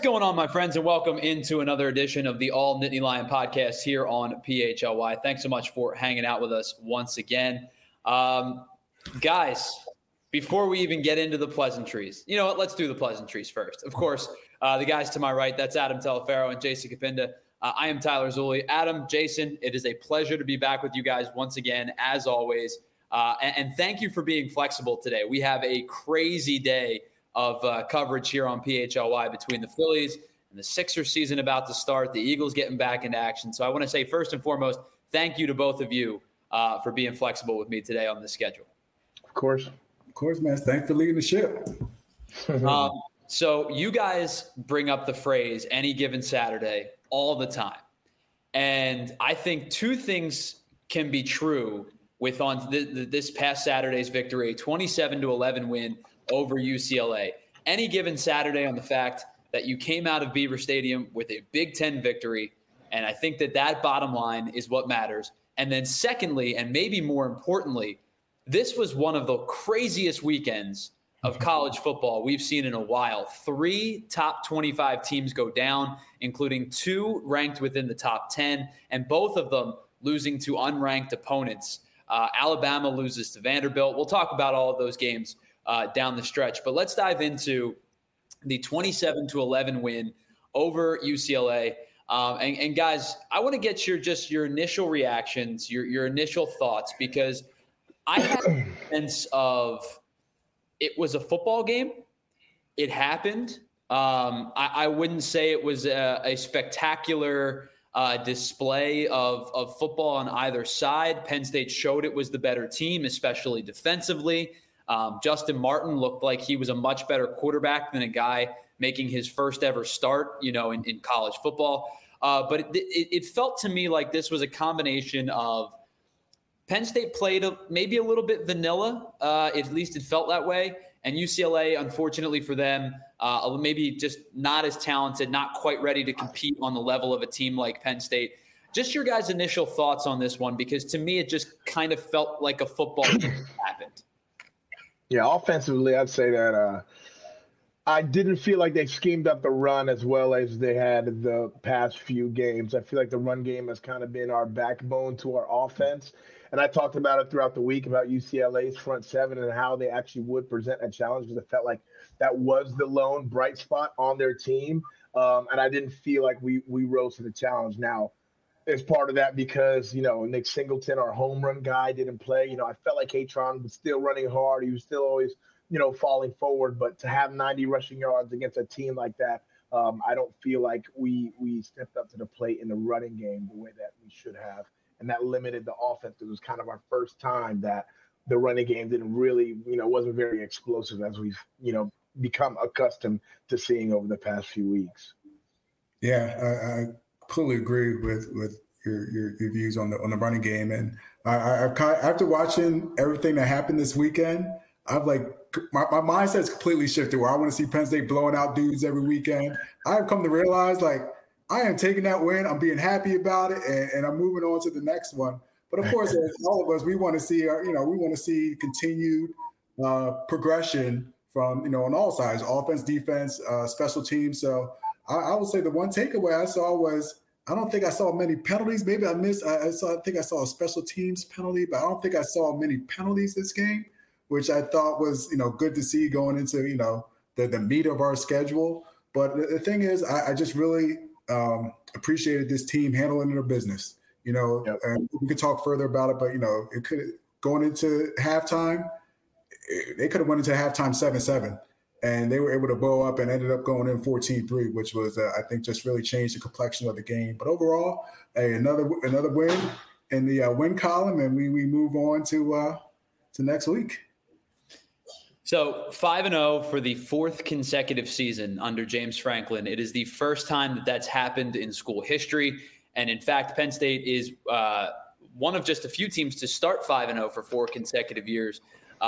What's going on, my friends, and welcome into another edition of the All Nittany Lion podcast here on PHLY. Thanks so much for hanging out with us once again. Guys, before we even get into the pleasantries, you know what? Let's do the pleasantries first. Of course, the guys to my right, that's Adam Telefaro and Jason Capinda. I am Tyler Zulli. Adam, Jason, it is a pleasure to be back with you guys once again, as always. And thank you for being flexible today. We have a crazy day of coverage here on PHLY between the Phillies and the Sixers season about to start, the Eagles getting back into action. So I want to say, first and foremost, thank you to both of you for being flexible with me today on the schedule. Of course, man. Thanks for leading the ship. So you guys bring up the phrase any given Saturday all the time. And I think two things can be true with on this past Saturday's victory, a 27-11 win over UCLA. Any given Saturday on the fact that you came out of Beaver Stadium with a Big Ten victory. And I think that bottom line is what matters. And then secondly, and maybe more importantly, this was one of the craziest weekends of college football we've seen in a while. 3 top 25 teams go down, including 2 ranked within the top 10, and both of them losing to unranked opponents. Alabama loses to Vanderbilt. We'll talk about all of those games down the stretch. But let's dive into the 27-11 win over UCLA. And guys, I want to get your initial reactions, your initial thoughts, because I had a sense of it was a football game. It happened. I wouldn't say it was a spectacular display of football on either side. Penn State showed it was the better team, especially defensively. Justin Martin looked like he was a much better quarterback than a guy making his first ever start, in college football. But it felt to me like this was a combination of Penn State played maybe a little bit vanilla, at least it felt that way. And UCLA, unfortunately for them, maybe just not as talented, not quite ready to compete on the level of a team like Penn State. Just your guys' initial thoughts on this one, because to me it just kind of felt like a football game happened. Yeah, offensively, I'd say that I didn't feel like they schemed up the run as well as they had the past few games. I feel like the run game has kind of been our backbone to our offense. And I talked about it throughout the week about UCLA's front seven and how they actually would present a challenge, because it felt like that was the lone bright spot on their team. And I didn't feel like we rose to the challenge. Now, as part of that, because, Nick Singleton, our home run guy, didn't play. I felt like Katron was still running hard. He was still always, falling forward. But to have 90 rushing yards against a team like that, I don't feel like we stepped up to the plate in the running game the way that we should have. And that limited the offense. It was kind of our first time that the running game didn't really, wasn't very explosive as we've, become accustomed to seeing over the past few weeks. Yeah, I completely agree with your views on the running game. And after watching everything that happened this weekend, I've my mindset's completely shifted where I want to see Penn State blowing out dudes every weekend. I've come to realize I am taking that win. I'm being happy about it, and I'm moving on to the next one. But of course, as all of us, we want to see continued progression from on all sides, offense, defense, special teams. So I would say the one takeaway I saw was I don't think I saw many penalties. Maybe I missed. I think I saw a special teams penalty, but I don't think I saw many penalties this game, which I thought was good to see going into the meat of our schedule. But the thing is, I just really appreciated this team handling their business. Yep. And we could talk further about it, but it could going into halftime. They could have went into halftime 7-7. And they were able to bow up and ended up going in 14-3, which was, I think, just really changed the complexion of the game. But overall, another win in the win column, and we move on to next week. So 5-0 for the 4th consecutive season under James Franklin. It is the first time that that's happened in school history. And in fact, Penn State is one of just a few teams to start 5-0 for 4 consecutive years.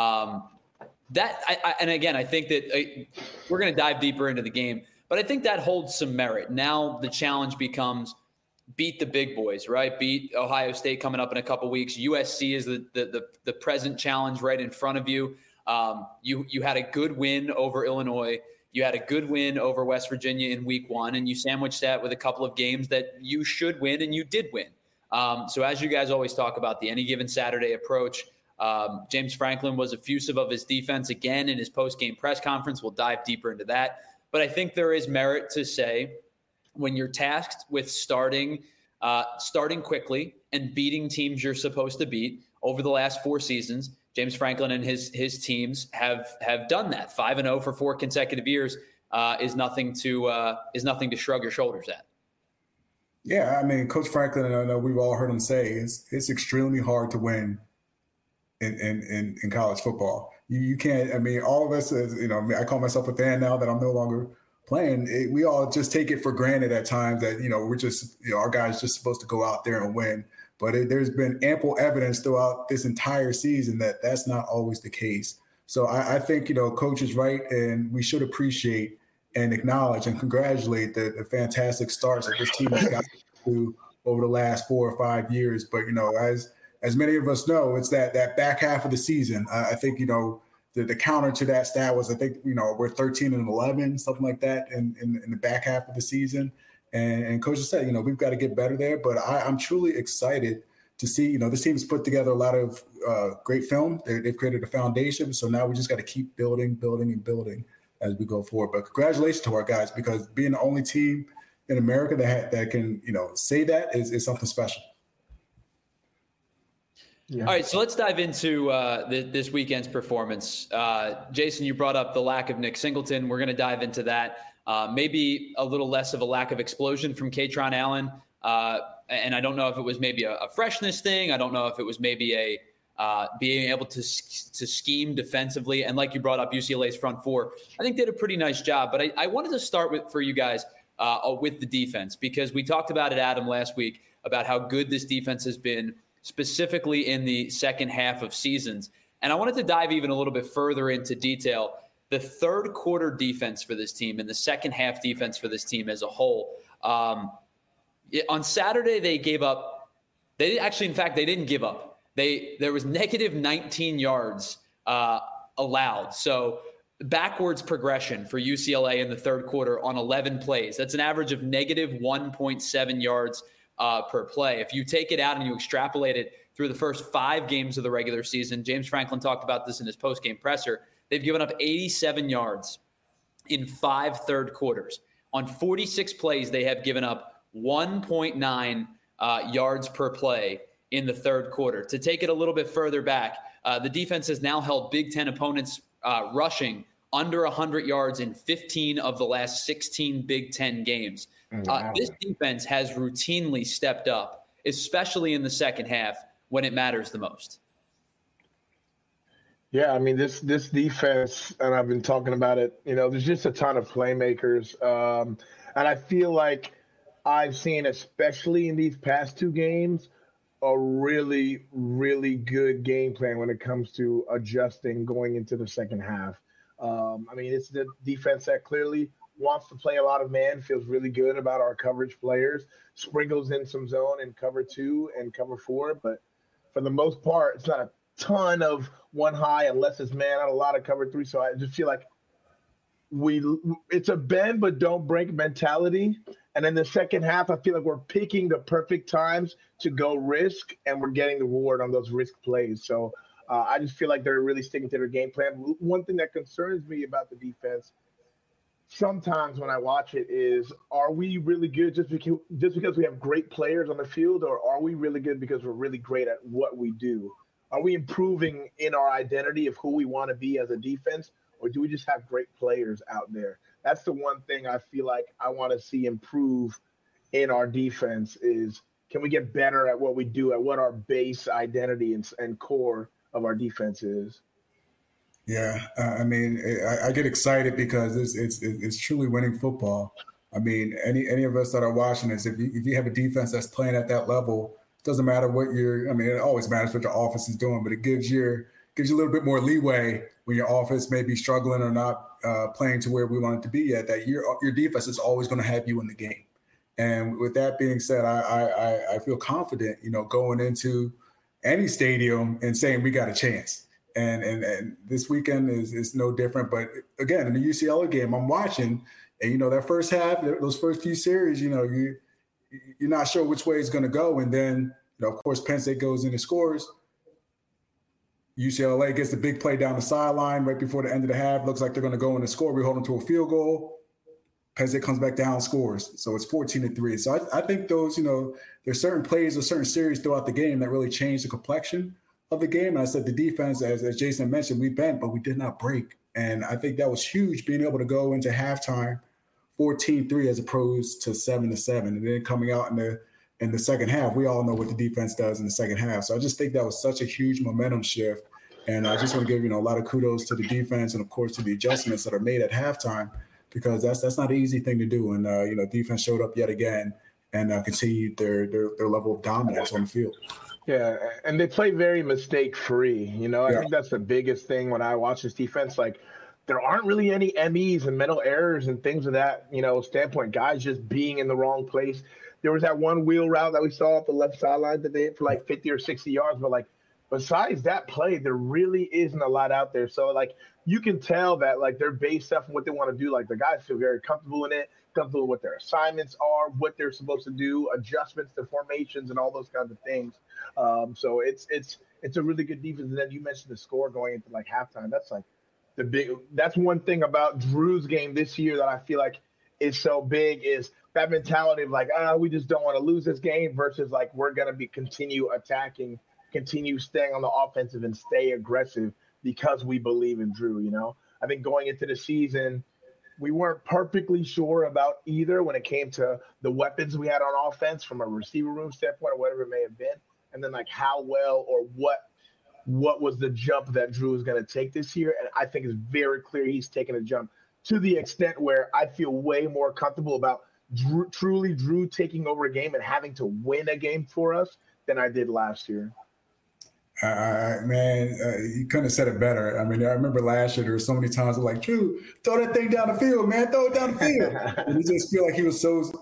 And again, I think that we're going to dive deeper into the game, but I think that holds some merit. Now the challenge becomes beat the big boys, right? Beat Ohio State coming up in a couple weeks. USC is the present challenge right in front of you. You had a good win over Illinois. You had a good win over West Virginia in week 1, and you sandwiched that with a couple of games that you should win, and you did win. So as you guys always talk about the any given Saturday approach, James Franklin was effusive of his defense again in his post-game press conference. We'll dive deeper into that. But I think there is merit to say when you're tasked with starting quickly and beating teams you're supposed to beat over the last 4 seasons, James Franklin and his teams have done that. 5-0 for 4 consecutive years is nothing to shrug your shoulders at. Yeah, I mean, Coach Franklin, I know we've all heard him say it's extremely hard to win in college football. You can't. I mean, all of us, I call myself a fan now that I'm no longer playing. We all just take it for granted at times that we're just our guys just supposed to go out there and win. But there's been ample evidence throughout this entire season that that's not always the case. So I think Coach is right, and we should appreciate and acknowledge and congratulate the fantastic starts that this team has got to over the last 4 or 5 years. But as many of us know, it's that back half of the season. I think the counter to that stat was we're 13-11, something like that, in the back half of the season. And Coach has said we've got to get better there. But I'm truly excited to see this team's put together a lot of great film. They've created a foundation. So now we just got to keep building as we go forward. But congratulations to our guys, because being the only team in America that can say that is something special. Yeah. All right, so let's dive into this weekend's performance. Jason, you brought up the lack of Nick Singleton. We're going to dive into that. Maybe a little less of a lack of explosion from Kaytron Allen. And I don't know if it was maybe a freshness thing. I don't know if it was maybe a being able to scheme defensively. And like you brought up, UCLA's front 4, I think did a pretty nice job. But I wanted to start for you guys with the defense, because we talked about it, Adam, last week, about how good this defense has been, specifically in the second half of seasons. And I wanted to dive even a little bit further into detail the third quarter defense for this team and the second half defense for this team as a whole. On Saturday, they gave up. They didn't give up. There was negative 19 yards allowed. So backwards progression for UCLA in the third quarter on 11 plays. That's an average of negative 1.7 yards per play. If you take it out and you extrapolate it through the first 5 games of the regular season, James Franklin talked about this in his post-game presser, they've given up 87 yards in 5 third quarters. On 46 plays, they have given up 1.9 yards per play in the third quarter. To take it a little bit further back, the defense has now held Big Ten opponents rushing under 100 yards in 15 of the last 16 Big Ten games. This defense has routinely stepped up, especially in the second half when it matters the most. Yeah, I mean, this defense, and I've been talking about it, there's just a ton of playmakers. And I feel like I've seen, especially in these past 2 games, a really, really good game plan when it comes to adjusting going into the second half. I mean, it's the defense that clearly wants to play a lot of man, feels really good about our coverage players, sprinkles in some zone in cover 2 and cover 4. But for the most part, it's not a ton of one high unless it's man out, a lot of cover 3. So I just feel like it's a bend but don't break mentality. And in the second half, I feel like we're picking the perfect times to go risk, and we're getting the reward on those risk plays. So I just feel like they're really sticking to their game plan. One thing that concerns me about the defense sometimes when I watch it is, are we really good just because we have great players on the field, or are we really good because we're really great at what we do? Are we improving in our identity of who we want to be as a defense, or do we just have great players out there? That's the one thing I feel like I want to see improve in our defense is, can we get better at what we do, at what our base identity and core of our defense is? Yeah, I mean, I get excited because it's truly winning football. I mean, any of us that are watching this, if you have a defense that's playing at that level, it doesn't matter what it always matters what your offense is doing, but it gives you a little bit more leeway when your offense may be struggling or not playing to where we want it to be yet, that your defense is always going to have you in the game. And with that being said, I feel confident, going into any stadium and saying we got a chance. And this weekend is no different. But again, in the UCLA game, I'm watching, and that first half, those first few series, you're not sure which way it's going to go, and then of course Penn State goes in and scores. UCLA gets the big play down the sideline right before the end of the half. Looks like they're going to go in and score. We hold them to a field goal. Penn State comes back down, scores. So it's 14-3. So I think those, there's certain plays or certain series throughout the game that really change the complexion of the game. And I said the defense, as Jason mentioned, we bent, but we did not break. And I think that was huge, being able to go into halftime 14-3 as opposed to 7-7. And then coming out in the second half, we all know what the defense does in the second half. So I just think that was such a huge momentum shift. And I just want to give, a lot of kudos to the defense and, of course, to the adjustments that are made at halftime, because that's not an easy thing to do. And, defense showed up yet again and continued their level of dominance on the field. Yeah, and they play very mistake-free. I think that's the biggest thing when I watch this defense. Like, there aren't really any MEs and mental errors and things of that, standpoint. Guys just being in the wrong place. There was that one wheel route that we saw off the left sideline that they hit for like 50 or 60 yards. But, like, besides that play, there really isn't a lot out there. So, like, you can tell that, like, they're based off of what they want to do. Like, the guys feel very comfortable in it, comfortable with what their assignments are, what they're supposed to do, adjustments to formations and all those kinds of things. So it's a really good defense. And then you mentioned the score going into, like, halftime. That's, like, that's one thing about Drew's game this year that I feel like is so big, is that mentality of, like, we just don't want to lose this game versus, like, we're going to continue attacking, continue staying on the offensive and stay aggressive because we believe in Drew. I think going into the season, we weren't perfectly sure about either when it came to the weapons we had on offense from a receiver room standpoint or whatever it may have been. And then, like, how well or what was the jump that Drew was going to take this year. And I think it's very clear he's taken a jump to the extent where I feel way more comfortable about Drew taking over a game and having to win a game for us than I did last year. You couldn't have said it better. I mean, I remember last year there were so many times I'm like, Drew, throw that thing down the field, man, throw it down the field. And you just feel like he was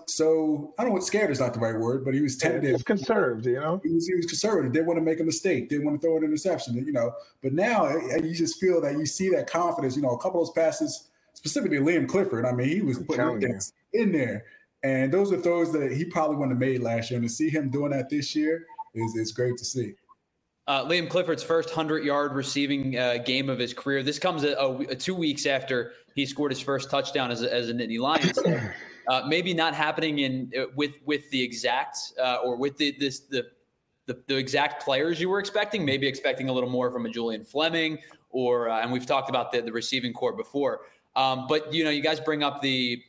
so I don't know what scared is not the right word, but he was tentative. He was conserved, He was conservative. Didn't want to make a mistake. Didn't want to throw an interception, But now you just feel that you see that confidence. A couple of those passes, specifically Liam Clifford. I mean, he was putting things in there. And those are throws that he probably wouldn't have made last year. And to see him doing that this year is great to see. Liam Clifford's first 100-yard receiving game of his career. This comes 2 weeks after he scored his first touchdown as a Nittany Lion. So, maybe not happening with the exact or with the exact players you were expecting. Maybe expecting a little more from a Julian Fleming and we've talked about the receiving core before. But you guys bring up the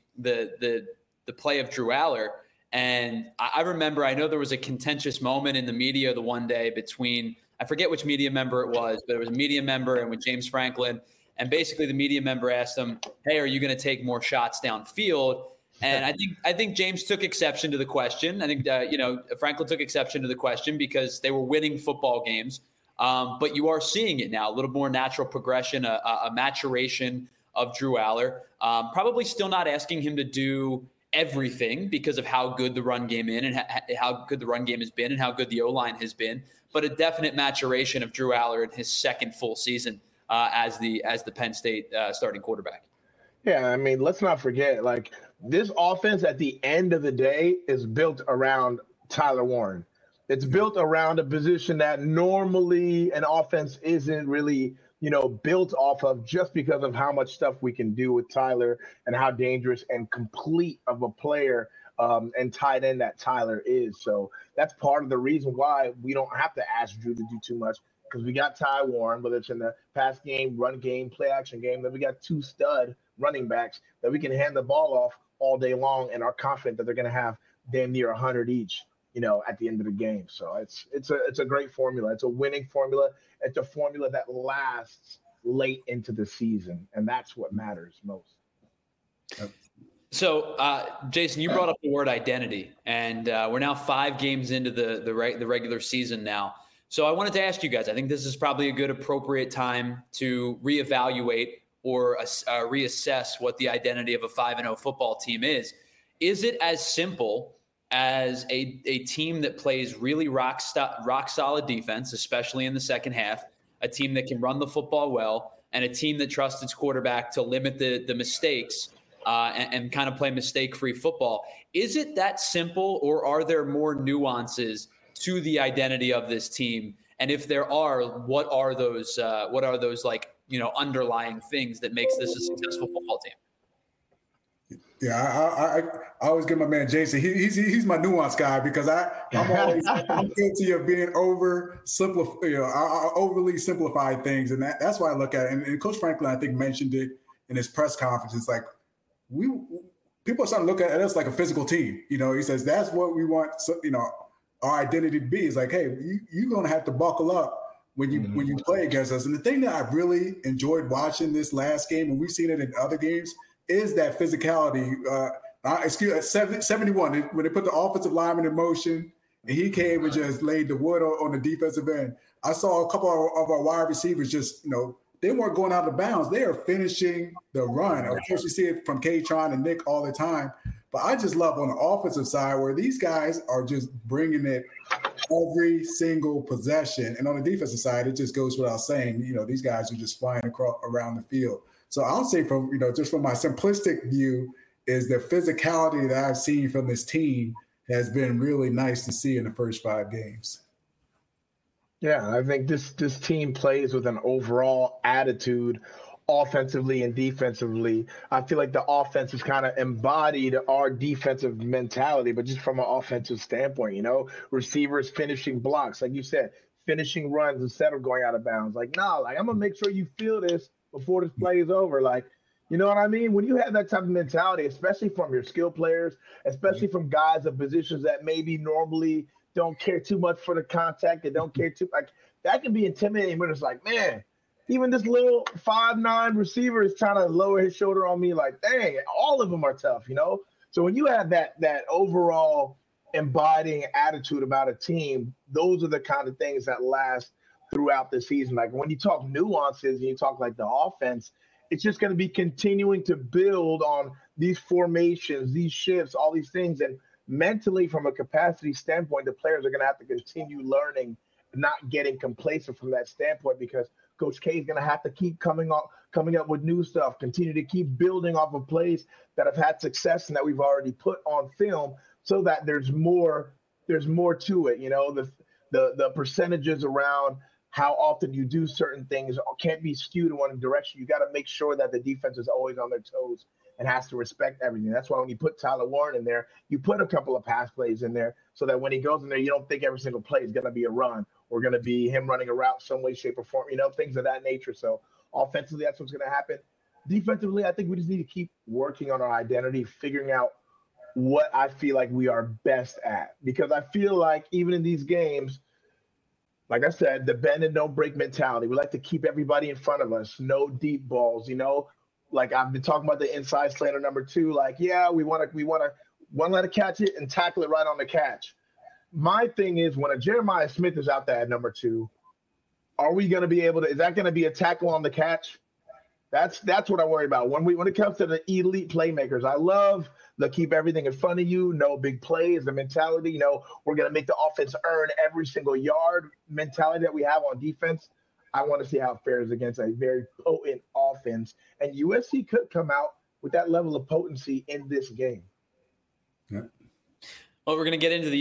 play of Drew Allar. And I remember, I know there was a contentious moment in the media the one day between, I forget which media member it was, but it was a media member and with James Franklin. And basically the media member asked him, hey, are you going to take more shots downfield? And I think James took exception to the question. I think, Franklin took exception to the question because they were winning football games. But you are seeing it now, a little more natural progression, a maturation of Drew Allar. Probably still not asking him to do everything because of how good the run game how good the run game has been and how good the O-line has been, but a definite maturation of Drew Allar in his second full season as the Penn State starting quarterback. Yeah, I mean, let's not forget, like, this offense at the end of the day is built around Tyler Warren. It's built around a position that normally an offense isn't really built off of, just because of how much stuff we can do with Tyler and how dangerous and complete of a player and tight end that Tyler is. So that's part of the reason why we don't have to ask Drew to do too much, because we got Ty Warren, whether it's in the pass game, run game, play action game, then we got two stud running backs that we can hand the ball off all day long and are confident that they're going to have damn near 100 each, at the end of the game. So it's a great formula. It's a winning formula. It's a formula that lasts late into the season, and that's what matters most. So, Jason, you brought up the word identity, and we're now 5 games into the regular season now. So I wanted to ask you guys, I think this is probably a good, appropriate time to reevaluate or reassess what the identity of a 5-0 football team is. Is it as simple as a team that plays really rock solid defense, especially in the second half, a team that can run the football well, and a team that trusts its quarterback to limit the mistakes and kind of play mistake-free football. Is it that simple, or are there more nuances to the identity of this team? And if there are, what are those underlying things that makes this a successful football team? Yeah, I always give my man Jason. He's my nuance guy, because I'm always guilty of being overly simplified things, and that's why I look at it. And Coach Franklin, I think, mentioned it in his press conference. It's like people are starting to look at us like a physical team. He says that's what we want. Our identity to be is like, hey, you're going to have to buckle up when you play against us. And the thing that I really enjoyed watching this last game, and we've seen it in other games, is that physicality. 71, when they put the offensive lineman in motion and he came and just laid the wood on the defensive end. I saw a couple of our wide receivers just, they weren't going out of bounds. They are finishing the run. Of course, you see it from K-Tron and Nick all the time. But I just love on the offensive side where these guys are just bringing it every single possession. And on the defensive side, it just goes without saying, these guys are just flying around the field. So I'll say from just from my simplistic view is the physicality that I've seen from this team has been really nice to see in the first 5 games. Yeah, I think this team plays with an overall attitude offensively and defensively. I feel like the offense has kind of embodied our defensive mentality, but just from an offensive standpoint, receivers finishing blocks, like you said, finishing runs instead of going out of bounds. I'm going to make sure you feel this before this play is over. You know what I mean? When you have that type of mentality, especially from your skill players, especially from guys of positions that maybe normally don't care too much for the contact, they don't care too that can be intimidating when it's like, man, even this little 5'9" receiver is trying to lower his shoulder on me. Like, dang, all of them are tough, So when you have that overall embodying attitude about a team, those are the kind of things that last throughout the season. Like when you talk nuances and you talk like the offense, it's just going to be continuing to build on these formations, these shifts, all these things. And mentally, from a capacity standpoint, the players are going to have to continue learning, not getting complacent from that standpoint, because Coach K is going to have to keep coming up with new stuff, continue to keep building off of plays that have had success and that we've already put on film, so that there's more to it. The percentages around how often you do certain things can't be skewed in one direction. You got to make sure that the defense is always on their toes and has to respect everything. That's why when you put Tyler Warren in there, you put a couple of pass plays in there so that when he goes in there, you don't think every single play is going to be a run or going to be him running a route some way, shape, or form, things of that nature. So offensively, that's what's going to happen. Defensively, I think we just need to keep working on our identity, figuring out what I feel like we are best at. Because I feel like even in these games, like I said, the bend and don't break mentality. We like to keep everybody in front of us. No deep balls, Like I've been talking about the inside slanter number 2. Like, yeah, we want to let it catch it and tackle it right on the catch. My thing is, when a Jeremiah Smith is out there at number 2, are we going to be able to? Is that going to be a tackle on the catch? That's what I worry about. When it comes to the elite playmakers, I love the keep everything in front of you, no big plays, the mentality. We're going to make the offense earn every single yard mentality that we have on defense. I want to see how it fares against a very potent offense. And USC could come out with that level of potency in this game. Yeah. Well, we're going to get into the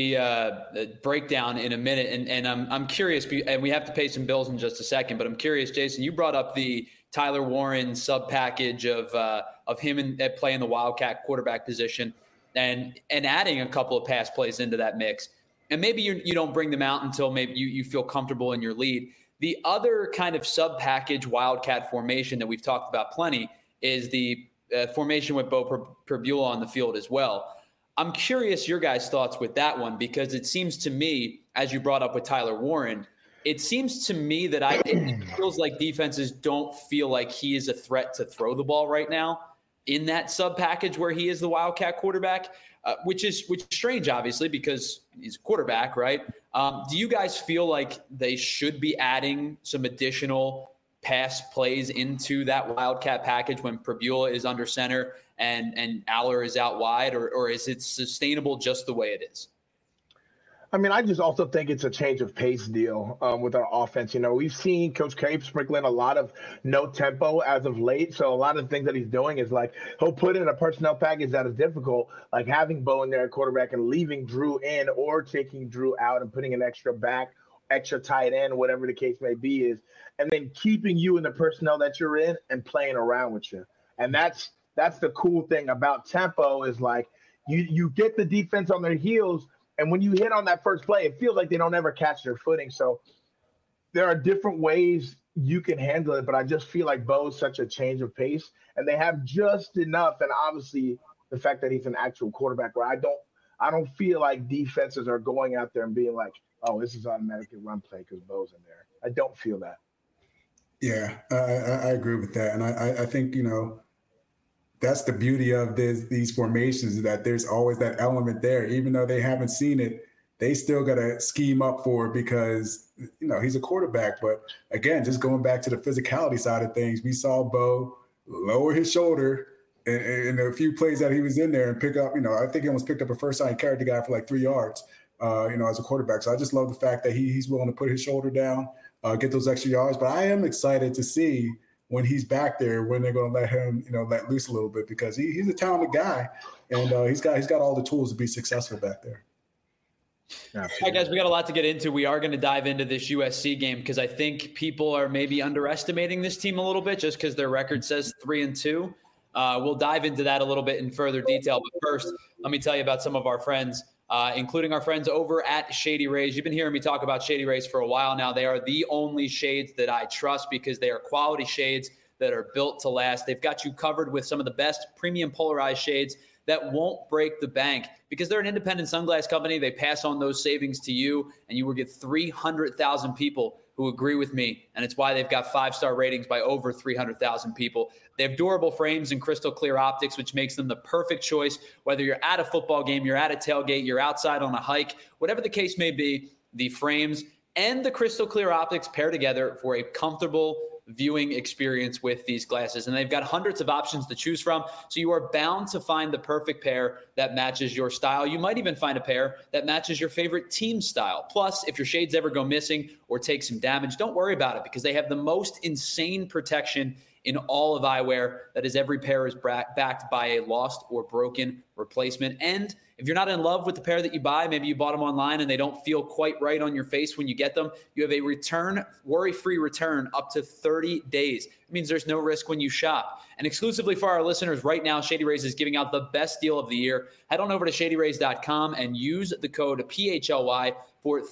USC breakdown in a minute, and I'm curious, and we have to pay some bills in just a second, but I'm curious, Jason, you brought up the Tyler Warren sub package of him playing the Wildcat quarterback position and adding a couple of pass plays into that mix. And maybe you don't bring them out until maybe you feel comfortable in your lead. The other kind of sub package Wildcat formation that we've talked about plenty is the formation with Beau Pribula on the field as well. I'm curious your guys' thoughts with that one, because it seems to me, as you brought up with Tyler Warren, it seems to me that it feels like defenses don't feel like he is a threat to throw the ball right now in that sub package where he is the Wildcat quarterback, which is strange, obviously, because he's a quarterback, right? Do you guys feel like they should be adding some additional pass plays into that Wildcat package when Pribula is under center and Aller is out wide, or is it sustainable just the way it is? I mean, I just also think it's a change of pace deal with our offense. You know, we've seen Coach K sprinkle in a lot of no tempo as of late. So a lot of the things that he's doing is like he'll put in a personnel package that is difficult, like having Bo in there at quarterback and leaving Drew in or taking Drew out and putting an extra back, extra tight end, whatever the case may be is, and then keeping you in the personnel that you're in and playing around with you. And that's the cool thing about tempo is like you get the defense on their heels. And when you hit on that first play, it feels like they don't ever catch their footing. So there are different ways you can handle it, but I just feel like Bo's such a change of pace, and they have just enough. And obviously, the fact that he's an actual quarterback, where I don't feel like defenses are going out there and being like, "Oh, this is automatically run play because Bo's in there." I don't feel that. Yeah, I agree with that, and I think that's the beauty of these formations, is that there's always that element there. Even though they haven't seen it, they still got to scheme up for it because, he's a quarterback. But again, just going back to the physicality side of things, we saw Bo lower his shoulder in a few plays that he was in there and pick up, I think he almost picked up a first time, carried the guy for like 3 yards, as a quarterback. So I just love the fact that he's willing to put his shoulder down, get those extra yards. But I am excited to see when he's back there, when they're going to let him, let loose a little bit, because he's a talented guy, and he's got all the tools to be successful back there. All right, guys, we got a lot to get into. We are going to dive into this USC game because I think people are maybe underestimating this team a little bit just because their record says 3-2. We'll dive into that a little bit in further detail. But first, let me tell you about some of our friends, including our friends over at Shady Rays. You've been hearing me talk about Shady Rays for a while now. They are the only shades that I trust because they are quality shades that are built to last. They've got you covered with some of the best premium polarized shades that won't break the bank because they're an independent sunglass company. They pass on those savings to you, and you will get 300,000 people who agree with me, and it's why they've got 5-star ratings by over 300,000 people. They have durable frames and crystal clear optics, which makes them the perfect choice, whether you're at a football game, you're at a tailgate, you're outside on a hike, whatever the case may be. The frames and the crystal clear optics pair together for a comfortable viewing experience with these glasses. And they've got hundreds of options to choose from, so you are bound to find the perfect pair that matches your style. You might even find a pair that matches your favorite team style. Plus, if your shades ever go missing or take some damage, don't worry about it because they have the most insane protection in all of eyewear. That is, every pair is backed by a lost or broken replacement. And if you're not in love with the pair that you buy, maybe you bought them online and they don't feel quite right on your face when you get them, you have a worry-free return up to 30 days. It means there's no risk when you shop. And exclusively for our listeners right now, Shady Rays is giving out the best deal of the year. Head on over to shadyrays.com and use the code PHLY for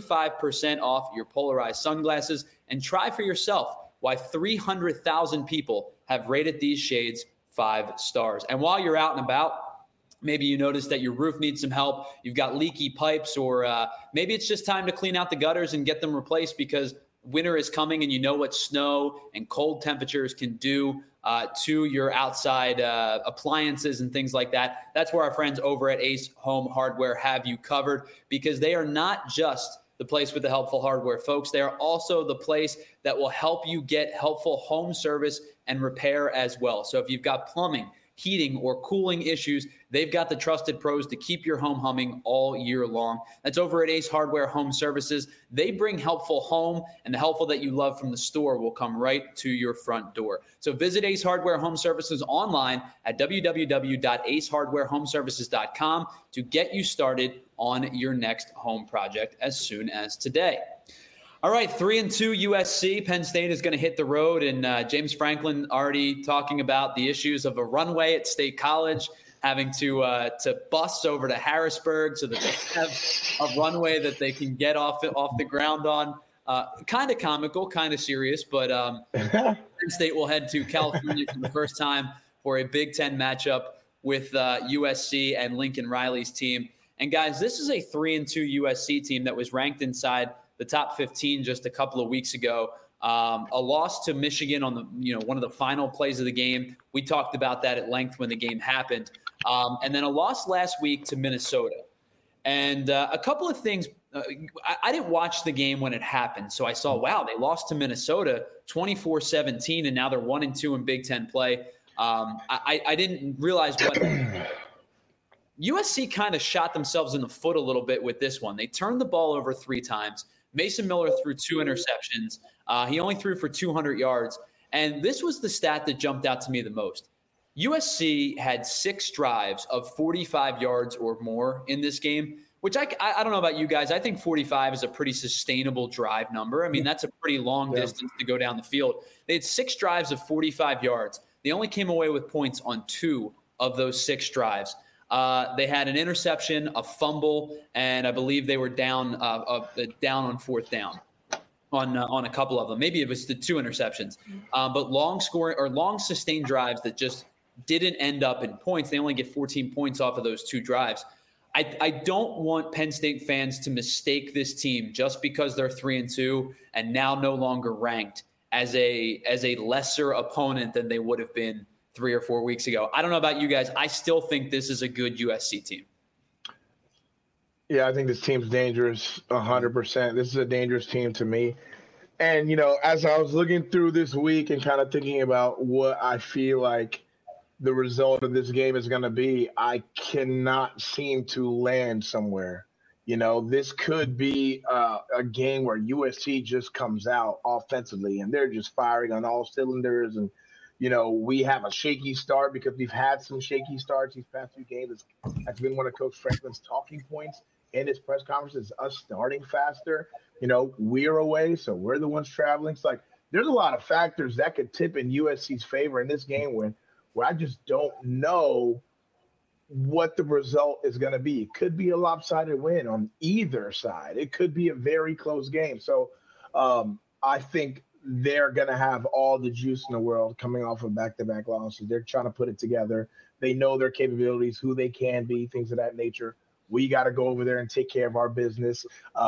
35% off your polarized sunglasses, and try for yourself why 300,000 people have rated these shades 5 stars. And while you're out and about, maybe you notice that your roof needs some help, you've got leaky pipes, or maybe it's just time to clean out the gutters and get them replaced because winter is coming and you know what snow and cold temperatures can do to your outside appliances and things like that. That's where our friends over at Ace Home Hardware have you covered, because they are not just the place with the helpful hardware, folks. They are also the place that will help you get helpful home service and repair as well. So if you've got plumbing, heating, or cooling issues, they've got the trusted pros to keep your home humming all year long. That's over at Ace Hardware Home Services. They bring helpful home, and the helpful that you love from the store will come right to your front door. So visit Ace Hardware Home Services online at www.acehardwarehomeservices.com to get you started on your next home project as soon as today. All right, 3-2 USC. Penn State is going to hit the road, and James Franklin already talking about the issues of a runway at State College, having to bus over to Harrisburg so that they have a runway that they can get off the ground on. Kind of comical, kind of serious, but Penn State will head to California for the first time for a Big Ten matchup with USC and Lincoln Riley's team. And guys, this is a 3-2 USC team that was ranked inside the top 15 just a couple of weeks ago. A loss to Michigan on the one of the final plays of the game. We talked about that at length when the game happened. And then a loss last week to Minnesota. And a couple of things. I didn't watch the game when it happened, so I saw, wow, they lost to Minnesota 24-17, and now they're 1-2 in Big Ten play. I didn't realize what USC kind of shot themselves in the foot a little bit with this one. They turned the ball over 3 times. Mason Miller threw 2 interceptions. He only threw for 200 yards. And this was the stat that jumped out to me the most. USC had 6 drives of 45 yards or more in this game, which I don't know about you guys. I think 45 is a pretty sustainable drive number. I mean, that's a pretty long distance to go down the field. They had 6 drives of 45 yards. They only came away with points on 2 of those 6 drives. They had an interception, a fumble, and I believe they were down on 4th down on a couple of them. Maybe it was the 2 interceptions, but long sustained drives that just didn't end up in points. They only get 14 points off of those 2 drives. I don't want Penn State fans to mistake this team just because they're 3-2 and now no longer ranked as a lesser opponent than they would have been 3 or 4 weeks ago. I don't know about you guys. I still think this is a good USC team. Yeah, I think this team's dangerous 100%. This is a dangerous team to me. And, as I was looking through this week and kind of thinking about what I feel like the result of this game is going to be, I cannot seem to land somewhere. This could be a game where USC just comes out offensively and they're just firing on all cylinders. And, we have a shaky start because we've had some shaky starts these past few games. That's been one of Coach Franklin's talking points in his press conferences, us starting faster. We're away, so we're the ones traveling. It's like there's a lot of factors that could tip in USC's favor in this game where I just don't know what the result is going to be. It could be a lopsided win on either side. It could be a very close game. So I think they're going to have all the juice in the world coming off of back-to-back losses. They're trying to put it together. They know their capabilities, who they can be, things of that nature. We got to go over there and take care of our business.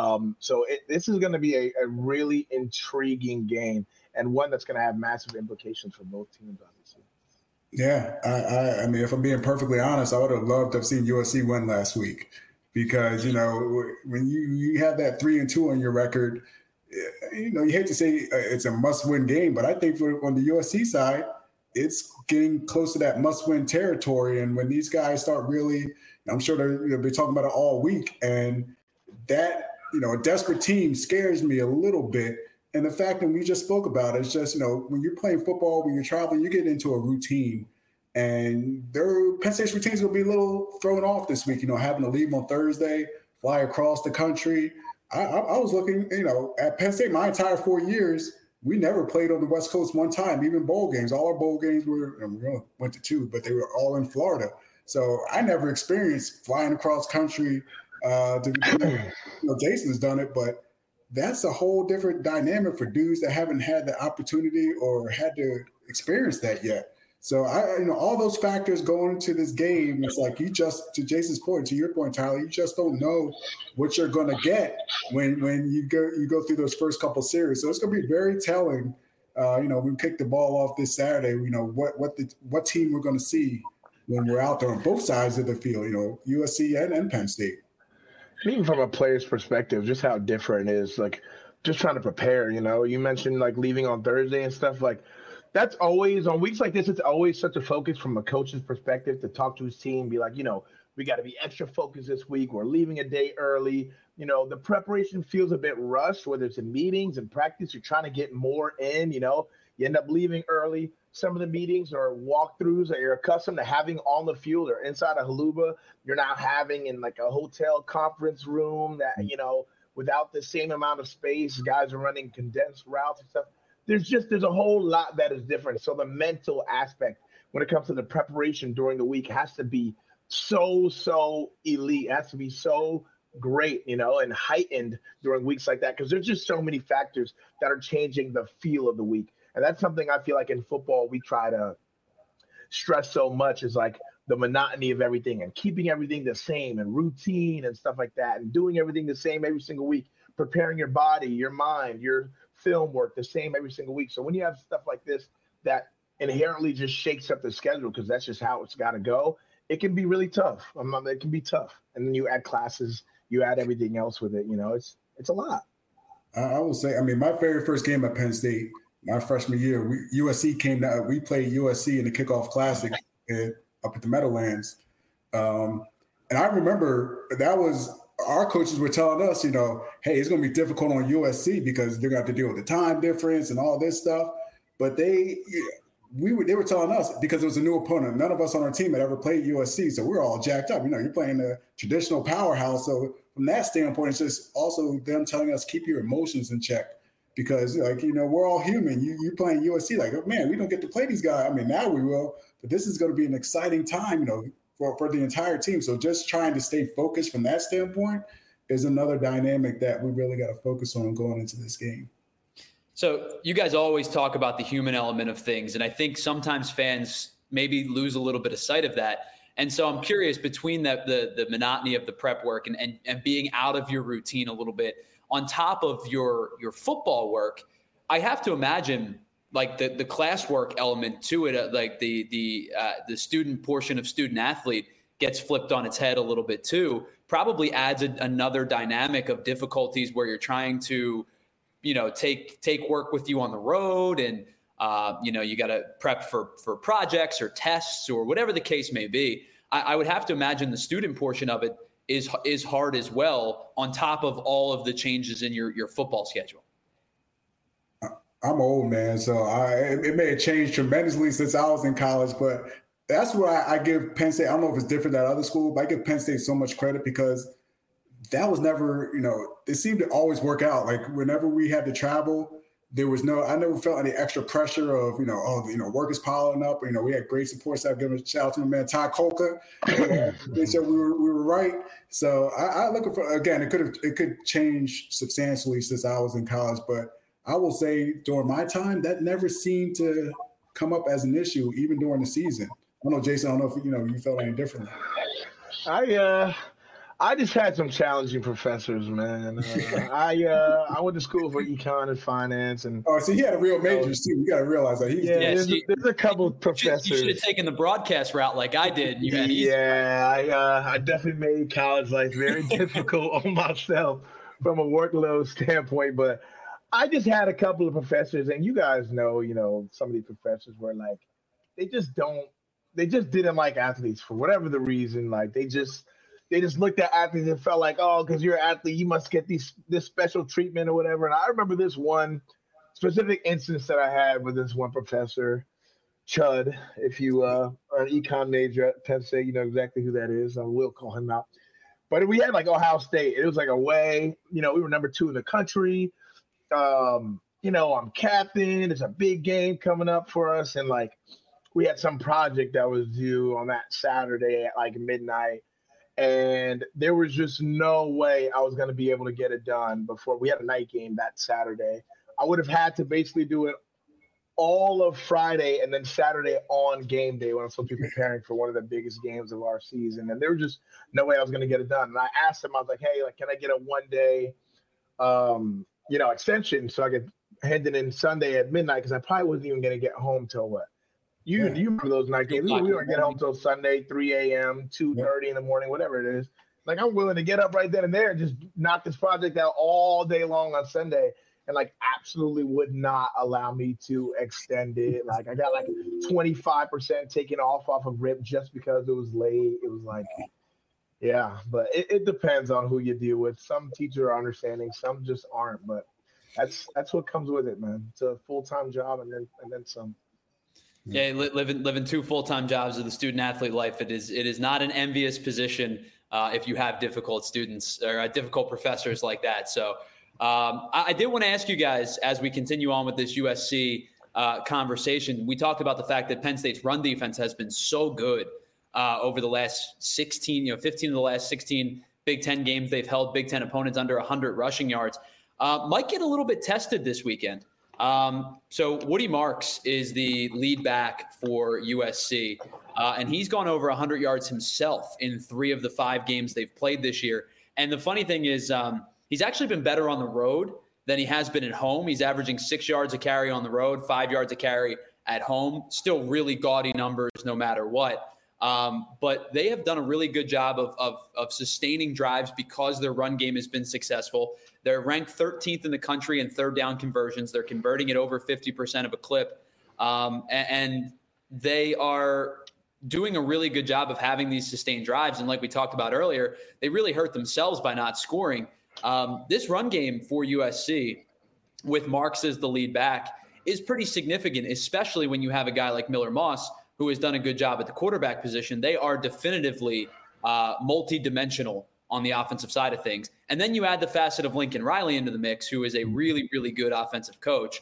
This is going to be a really intriguing game and one that's going to have massive implications for both teams, obviously. Yeah, I mean, if I'm being perfectly honest, I would have loved to have seen USC win last week because, when you have that 3-2 on your record, you hate to say it's a must-win game, but I think on the USC side, it's getting close to that must-win territory. And when these guys start really, I'm sure they'll be talking about it all week. And that, a desperate team scares me a little bit. And the fact that we just spoke about it is just, when you're playing football, when you're traveling, you get into a routine. And Penn State's routines will be a little thrown off this week, having to leave on Thursday, fly across the country. I was looking, at Penn State my entire 4 years, we never played on the West Coast one time, even bowl games. All our bowl games went to 2, but they were all in Florida. So I never experienced flying across country. Jason has done it, but that's a whole different dynamic for dudes that haven't had the opportunity or had to experience that yet. So all those factors going into this game, it's like to Jason's point, to your point, Tyler, you just don't know what you're going to get when you go through those first couple series. So it's going to be very telling. We kick the ball off this Saturday. What team we're going to see when we're out there on both sides of the field. USC and Penn State. Even from a player's perspective, just how different it is. Like just trying to prepare. You mentioned like leaving on Thursday and stuff like. That's always on weeks like this. It's always such a focus from a coach's perspective to talk to his team, be like, we got to be extra focused this week. We're leaving a day early. The preparation feels a bit rushed, whether it's in meetings and practice. You're trying to get more in. You end up leaving early. Some of the meetings are walkthroughs that you're accustomed to having on the field or inside a Haluba. You're now having in like a hotel conference room that without the same amount of space. Guys are running condensed routes and stuff. There's a whole lot that is different. So the mental aspect when it comes to the preparation during the week has to be so elite. It has to be so great, and heightened during weeks like that because there's just so many factors that are changing the feel of the week. And that's something I feel like in football we try to stress so much is like the monotony of everything and keeping everything the same and routine and stuff like that and doing everything the same every single week, preparing your body, your mind, your film work the same every single week. So when you have stuff like this that inherently just shakes up the schedule because that's just how it's got to go, it can be really tough. It can be tough. And then you add classes, you add everything else with it. It's a lot. I will say, my very first game at Penn State, my freshman year, USC came down. We played USC in the kickoff classic up at the Meadowlands. And I remember that was our coaches were telling us, hey, it's going to be difficult on USC because they're going to have to deal with the time difference and all this stuff. But they were telling us, because it was a new opponent. None of us on our team had ever played USC, so we're all jacked up. You're playing a traditional powerhouse. So from that standpoint, it's just also them telling us keep your emotions in check, because we're all human. You playing USC, like, oh, man, we don't get to play these guys. I mean, now we will, but this is going to be an exciting time, for the entire team. So just trying to stay focused from that standpoint is another dynamic that we really got to focus on going into this game. So you guys always talk about the human element of things, and I think sometimes fans maybe lose a little bit of sight of that. And so I'm curious, between the monotony of the prep work and being out of your routine a little bit, on top of your football work, I have to imagine like the classwork element to it, like the student portion of student athlete gets flipped on its head a little bit too. Probably adds another dynamic of difficulties where you're trying to, take work with you on the road, and you got to prep for projects or tests or whatever the case may be. I would have to imagine the student portion of it is hard as well, on top of all of the changes in your football schedule. I'm old, man, so it may have changed tremendously since I was in college, but that's why I give Penn State, I don't know if it's different at other schools, but I give Penn State so much credit, because that was never, it seemed to always work out. Like whenever we had to travel, I never felt any extra pressure of, work is piling up. We had great support staff. Giving a shout out to my man, Ty Kolka. They said we were right. So I look for, again, it could change substantially since I was in college, but I will say during my time, that never seemed to come up as an issue, even during the season. I don't know, Jason, I don't know if you felt any differently. I just had some challenging professors, man. I went to school for econ and finance, and so he had a real majors too. You got to realize that. There's a couple of professors. You should have taken the broadcast route like I did. I definitely made college life very difficult on myself from a workload standpoint. But I just had a couple of professors, and you guys know, some of these professors were like, they just didn't like athletes for whatever the reason. Like they just looked at athletes and felt like, oh, because you're an athlete, you must get this special treatment or whatever. And I remember this one specific instance that I had with this one professor, Chud. If you are an econ major at Penn State, you know exactly who that is. I will call him out. But we had like Ohio State. It was like away. We were number 2 in the country. I'm captain. It's a big game coming up for us. And like we had some project that was due on that Saturday at like midnight. And there was just no way I was going to be able to get it done before we had a night game that Saturday. I would have had to basically do it all of Friday and then Saturday on game day when I'm supposed to be preparing for one of the biggest games of our season. And there was just no way I was going to get it done. And I asked him, I was like, hey, can I get a 1-day, extension so I could hand it in Sunday at midnight? Because I probably wasn't even going to get home till what? You remember those night games? We don't get home till Sunday, 3 a.m., 2:30 in the morning, whatever it is. Like, I'm willing to get up right then and there and just knock this project out all day long on Sunday, and like absolutely would not allow me to extend it. Like, I got like 25% taken off of RIP just because it was late. It was like, yeah, but it depends on who you deal with. Some teachers are understanding, some just aren't. But that's what comes with it, man. It's a full-time job and then some. Yeah, living 2 full-time jobs of the student athlete life. It is not an envious position if you have difficult students or difficult professors like that. So I did want to ask you guys, as we continue on with this USC conversation, we talked about the fact that Penn State's run defense has been so good over the last 15 of the last 16 Big Ten games. They've held Big Ten opponents under 100 rushing yards. Might get a little bit tested this weekend. So Woody Marks is the lead back for USC, and he's gone over 100 yards himself in 3 of the 5 games they've played this year. And the funny thing is he's actually been better on the road than he has been at home. He's averaging 6 yards a carry on the road, 5 yards a carry at home. Still really gaudy numbers no matter what. But they have done a really good job of sustaining drives because their run game has been successful. They're ranked 13th in the country in third down conversions. They're converting it over 50% of a clip. And they are, doing a really good job of having these sustained drives. And like we talked about earlier, they really hurt themselves by not scoring. This run game for USC with Marks as the lead back is pretty significant, especially when you have a guy like Miller Moss, who has done a good job at the quarterback position. They are definitively multi-dimensional on the offensive side of things. And then you add the facet of Lincoln Riley into the mix, who is a really, really good offensive coach.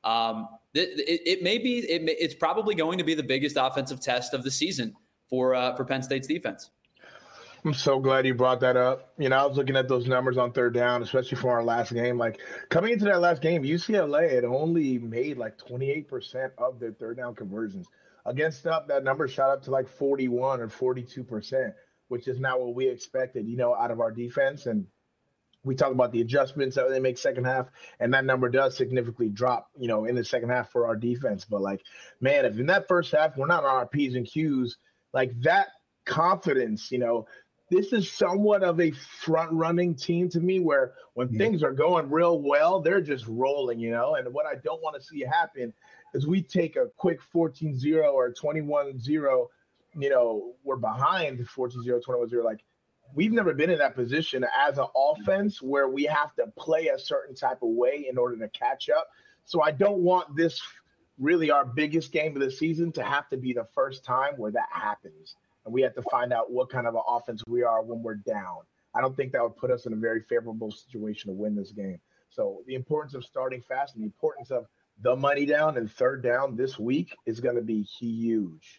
It's probably going to be the biggest offensive test of the season for Penn State's defense. I'm so glad you brought that up. I was looking at those numbers on third down, especially from our last game. Like, coming into that last game, UCLA had only made like 28% of their third down conversions. Against up, that number shot up to like 41 or 42%, which is not what we expected, out of our defense. And we talk about the adjustments that they make second half, and that number does significantly drop, in the second half for our defense. But, like, man, if in that first half we're not on our P's and Q's, like that confidence, this is somewhat of a front-running team to me where when things are going real well, they're just rolling, And what I don't want to see happen is we take a quick 14-0 or 21-0, we're behind 14-0, 21-0. Like, we've never been in that position as an offense where we have to play a certain type of way in order to catch up. So I don't want this really our biggest game of the season to have to be the first time where that happens. And we have to find out what kind of an offense we are when we're down. I don't think that would put us in a very favorable situation to win this game. So the importance of starting fast and the importance of the money down and third down this week is going to be huge.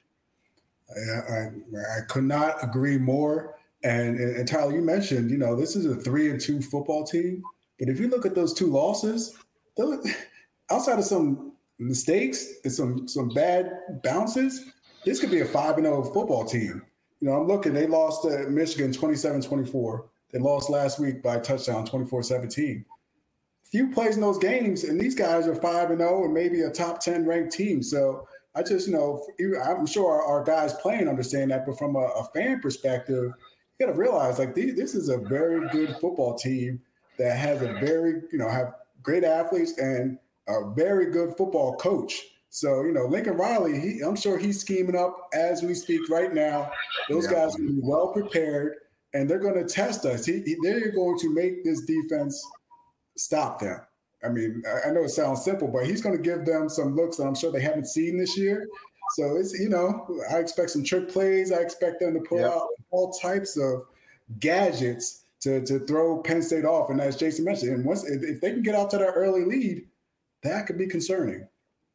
I could not agree more. And Tyler, you mentioned, this is a 3-2 football team. But if you look at those two losses, outside of some mistakes and some bad bounces, this could be a 5-0 football team. I'm looking, they lost to Michigan 27-24. They lost last week by a touchdown, 24-17. Few plays in those games, and these guys are 5-0 and maybe a top 10 ranked team. So I just, I'm sure our guys playing understand that, but from a fan perspective, you got to realize, like, this is a very good football team that has a very, have great athletes and a very good football coach. So, Lincoln Riley, I'm sure he's scheming up as we speak right now. Those guys are going to be well prepared, and they're going to test us. They're going to make this defense stop them. I mean, I know it sounds simple, but he's going to give them some looks that I'm sure they haven't seen this year. So it's, I expect some trick plays. I expect them to pull out all types of gadgets to throw Penn State off. And as Jason mentioned, and if they can get out to that early lead, that could be concerning.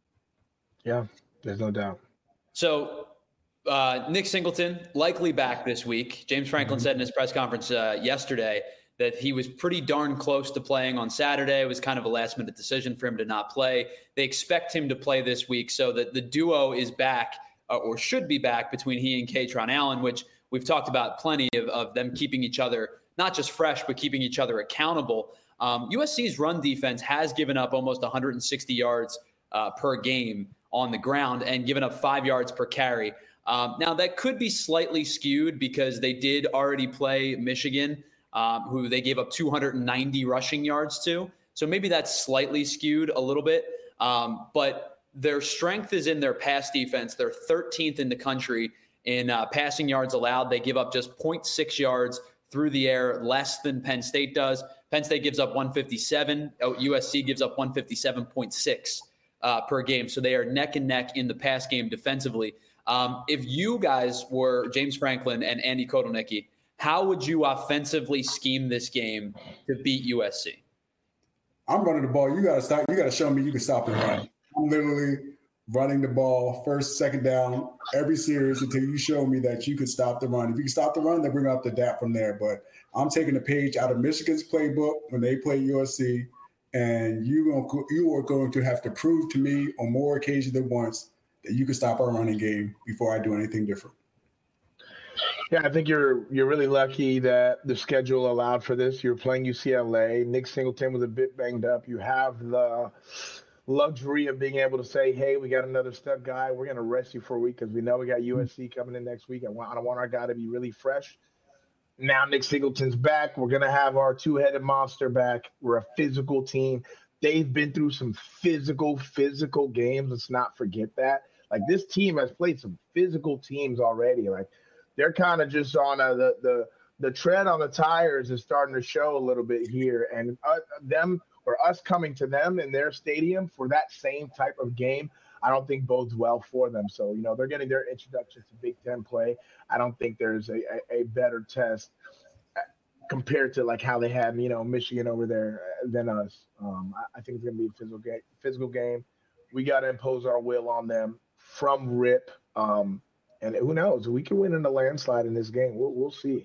Yeah, there's no doubt. So Nick Singleton likely back this week. James Franklin said in his press conference yesterday that he was pretty darn close to playing on Saturday. It was kind of a last-minute decision for him to not play. They expect him to play this week, so that the duo is back or should be back between he and Kaytron Allen, which we've talked about plenty of them keeping each other not just fresh, but keeping each other accountable. USC's run defense has given up almost 160 yards per game on the ground and given up 5 yards per carry. Now, that could be slightly skewed because they did already play Michigan, who they gave up 290 rushing yards to. So maybe that's slightly skewed a little bit. But their strength is in their pass defense. They're 13th in the country in passing yards allowed. They give up just 0.6 yards through the air, less than Penn State does. Penn State gives up 157. USC gives up 157.6 per game. So they are neck and neck in the pass game defensively. If you guys were James Franklin and Andy Kotelnicki, how would you offensively scheme this game to beat USC? I'm running the ball. You got to stop. You got to show me you can stop the run. I'm literally running the ball first, second down, every series until you show me that you can stop the run. If you can stop the run, then bring up the DAP from there. But I'm taking a page out of Michigan's playbook when they play USC, and you are going to have to prove to me on more occasions than once that you can stop our running game before I do anything different. Yeah, I think you're really lucky that the schedule allowed for this. You're playing UCLA. Nick Singleton was a bit banged up. You have the luxury of being able to say, hey, we got another stud guy. We're going to rest you for a week because we know we got USC coming in next week. I don't want our guy to be really fresh. Now Nick Singleton's back. We're going to have our two-headed monster back. We're a physical team. They've been through some physical games. Let's not forget that. Like, this team has played some physical teams already. Like, they're kind of just on the tread on the tires is starting to show a little bit here, and us coming to them in their stadium for that same type of game, I don't think bodes well for them. So, they're getting their introduction to Big Ten play. I don't think there's a better test compared to like how they had, Michigan over there than us. I think it's going to be a physical game. We got to impose our will on them from rip. And who knows? We can win in a landslide in this game. We'll see.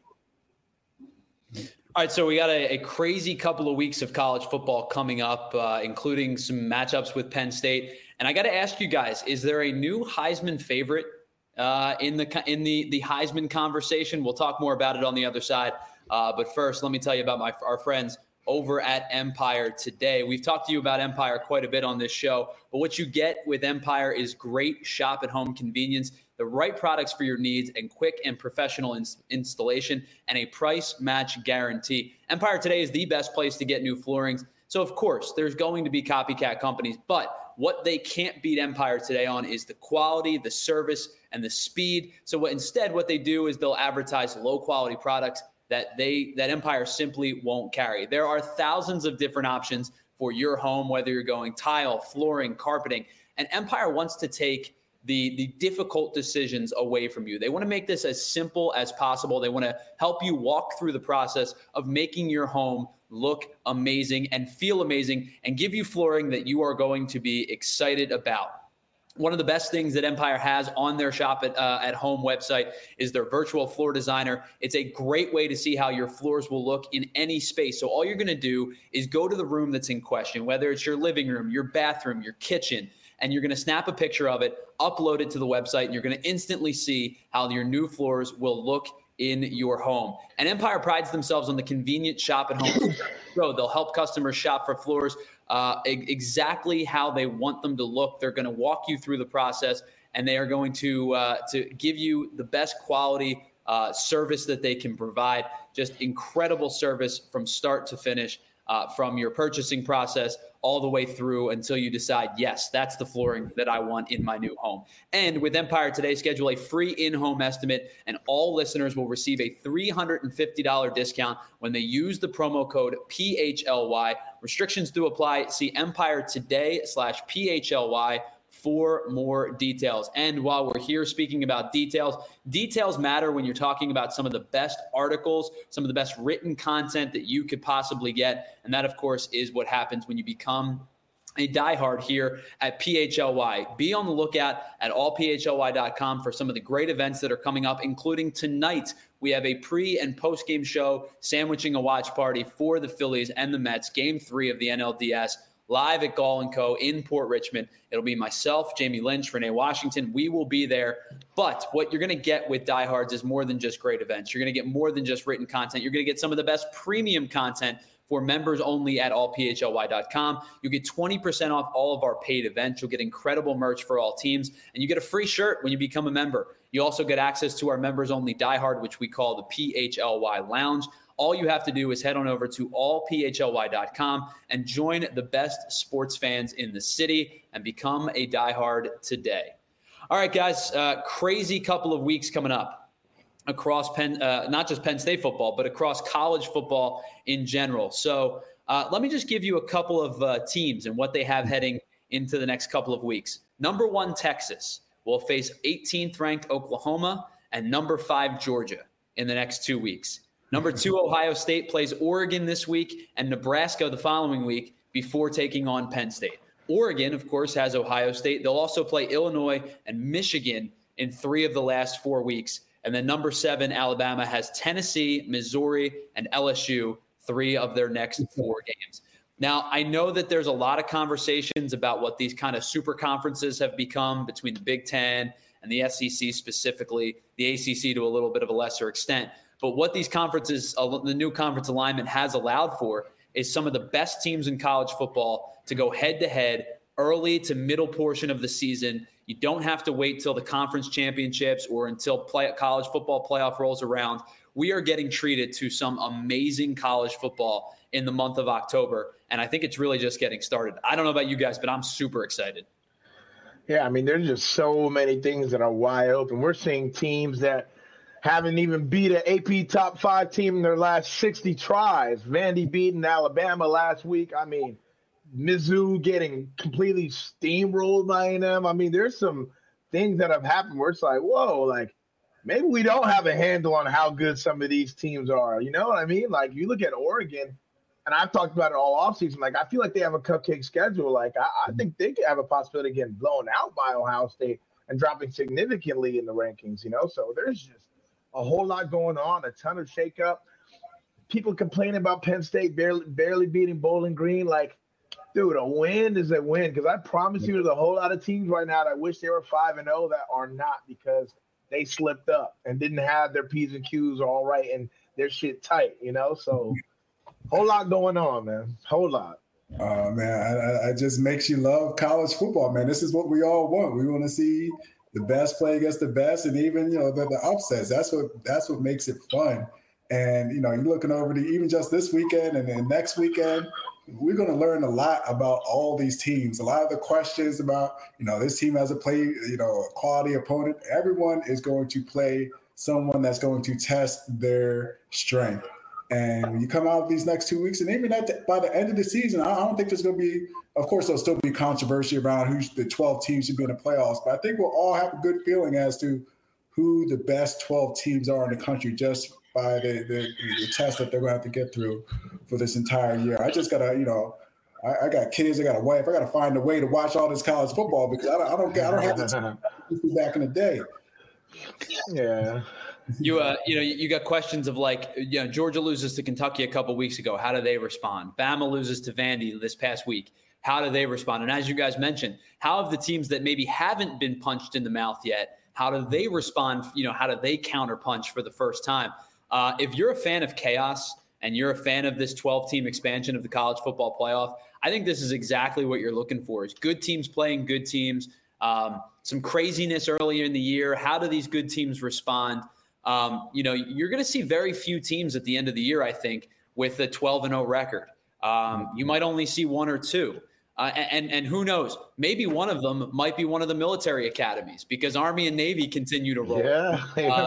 All right, so we got a crazy couple of weeks of college football coming up, including some matchups with Penn State. And I got to ask you guys, is there a new Heisman favorite in the Heisman conversation? We'll talk more about it on the other side. But first, let me tell you about our friends over at Empire Today. We've talked to you about Empire quite a bit on this show, but what you get with Empire is great shop-at-home convenience, the right products for your needs, and quick and professional installation, and a price match guarantee. Empire Today is the best place to get new floorings. So, of course, there's going to be copycat companies, but what they can't beat Empire Today on is the quality, the service, and the speed. So what they do is they'll advertise low-quality products that Empire simply won't carry. There are thousands of different options for your home, whether you're going tile, flooring, carpeting, and Empire wants to take the difficult decisions away from you. They want to make this as simple as possible. They want to help you walk through the process of making your home look amazing and feel amazing and give you flooring that you are going to be excited about. One of the best things that Empire has on their shop at home website is their virtual floor designer. It's a great way to see how your floors will look in any space. So all you're going to do is go to the room that's in question, whether it's your living room, your bathroom, your kitchen, and you're going to snap a picture of it, upload it to the website, and you're going to instantly see how your new floors will look in your home. And Empire prides themselves on the convenient shop at home. So they'll help customers shop for floors exactly how they want them to look. They're going to walk you through the process, and they are going to give you the best quality service that they can provide. Just incredible service from start to finish, from your purchasing process all the way through until you decide, yes, that's the flooring that I want in my new home. And with Empire Today, schedule a free in-home estimate, and all listeners will receive a $350 discount when they use the promo code PHLY. Restrictions do apply. See Empire Today/PHLY for more details. And while we're here speaking about details matter when you're talking about some of the best articles, some of the best written content that you could possibly get. And that, of course, is what happens when you become a diehard here at PHLY. Be on the lookout at allphly.com for some of the great events that are coming up, including tonight. We have a pre- and post-game show sandwiching a watch party for the Phillies and the Mets, Game 3 of the NLDS, live at Gall & Co. in Port Richmond. It'll be myself, Jamie Lynch, Renee Washington. We will be there. But what you're going to get with Diehards is more than just great events. You're going to get more than just written content. You're going to get some of the best premium content for members only at allphly.com. You get 20% off all of our paid events. You'll get incredible merch for all teams, and you get a free shirt when you become a member. You also get access to our members only Diehard, which we call the PHLY Lounge. All you have to do is head on over to allphly.com and join the best sports fans in the city and become a diehard today. All right, guys, crazy couple of weeks coming up across not just Penn State football, but across college football in general. So let me just give you a couple of teams and what they have heading into the next couple of weeks. Number 1, Texas will face 18th ranked Oklahoma and number 5 Georgia in the next 2 weeks. Number 2, Ohio State plays Oregon this week and Nebraska the following week before taking on Penn State. Oregon, of course, has Ohio State. They'll also play Illinois and Michigan in 3 of the last 4 weeks. And then number 7, Alabama has Tennessee, Missouri, and LSU, 3 of their next 4 games. Now, I know that there's a lot of conversations about what these kind of super conferences have become between the Big Ten and the SEC specifically, the ACC to a little bit of a lesser extent. But what these conferences, the new conference alignment has allowed for is some of the best teams in college football to go head-to-head early to middle portion of the season. You don't have to wait till the conference championships or until college football playoff rolls around. We are getting treated to some amazing college football in the month of October, and I think it's really just getting started. I don't know about you guys, but I'm super excited. Yeah, I mean, there's just so many things that are wide open. We're seeing teams that haven't even beat an AP top 5 team in their last 60 tries. Vandy beating Alabama last week. I mean, Mizzou getting completely steamrolled by A&M. I mean, there's some things that have happened where it's like, whoa, like maybe we don't have a handle on how good some of these teams are. You know what I mean? Like you look at Oregon, and I've talked about it all offseason. Like I feel like they have a cupcake schedule. Like I think they could have a possibility of getting blown out by Ohio State and dropping significantly in the rankings. You know, so there's just a whole lot going on, a ton of shakeup. People complaining about Penn State barely beating Bowling Green. Like, dude, a win is a win. Because I promise you, there's a whole lot of teams right now that wish they were 5-0 that are not because they slipped up and didn't have their P's and Q's all right and their shit tight. You know, so whole lot going on, man. Whole lot. Oh man, it just makes you love college football, man. This is what we all want. We want to see the best play against the best, and even the upsets. That's what makes it fun. And you're looking over even just this weekend and then next weekend, we're going to learn a lot about all these teams. A lot of the questions about this team has a quality opponent. Everyone is going to play someone that's going to test their strength. And when you come out of these next 2 weeks, and even by the end of the season, I don't think there's going to be, of course, there'll still be controversy around who the 12 teams should be in the playoffs. But I think we'll all have a good feeling as to who the best 12 teams are in the country just by the test that they're going to have to get through for this entire year. I just got to, I got kids, I got a wife, I got to find a way to watch all this college football because I don't have the time back in the day. Yeah. You got questions of like, Georgia loses to Kentucky a couple weeks ago. How do they respond? Bama loses to Vandy this past week. How do they respond? And as you guys mentioned, how have the teams that maybe haven't been punched in the mouth yet, how do they respond? How do they counterpunch for the first time? If you're a fan of chaos and you're a fan of this 12-team expansion of the college football playoff, I think this is exactly what you're looking for is good teams playing good teams, some craziness earlier in the year. How do these good teams respond? You're going to see very few teams at the end of the year, I think, with a 12-0 record. You might only see one or two. And who knows? Maybe one of them might be one of the military academies because Army and Navy continue to roll. Yeah,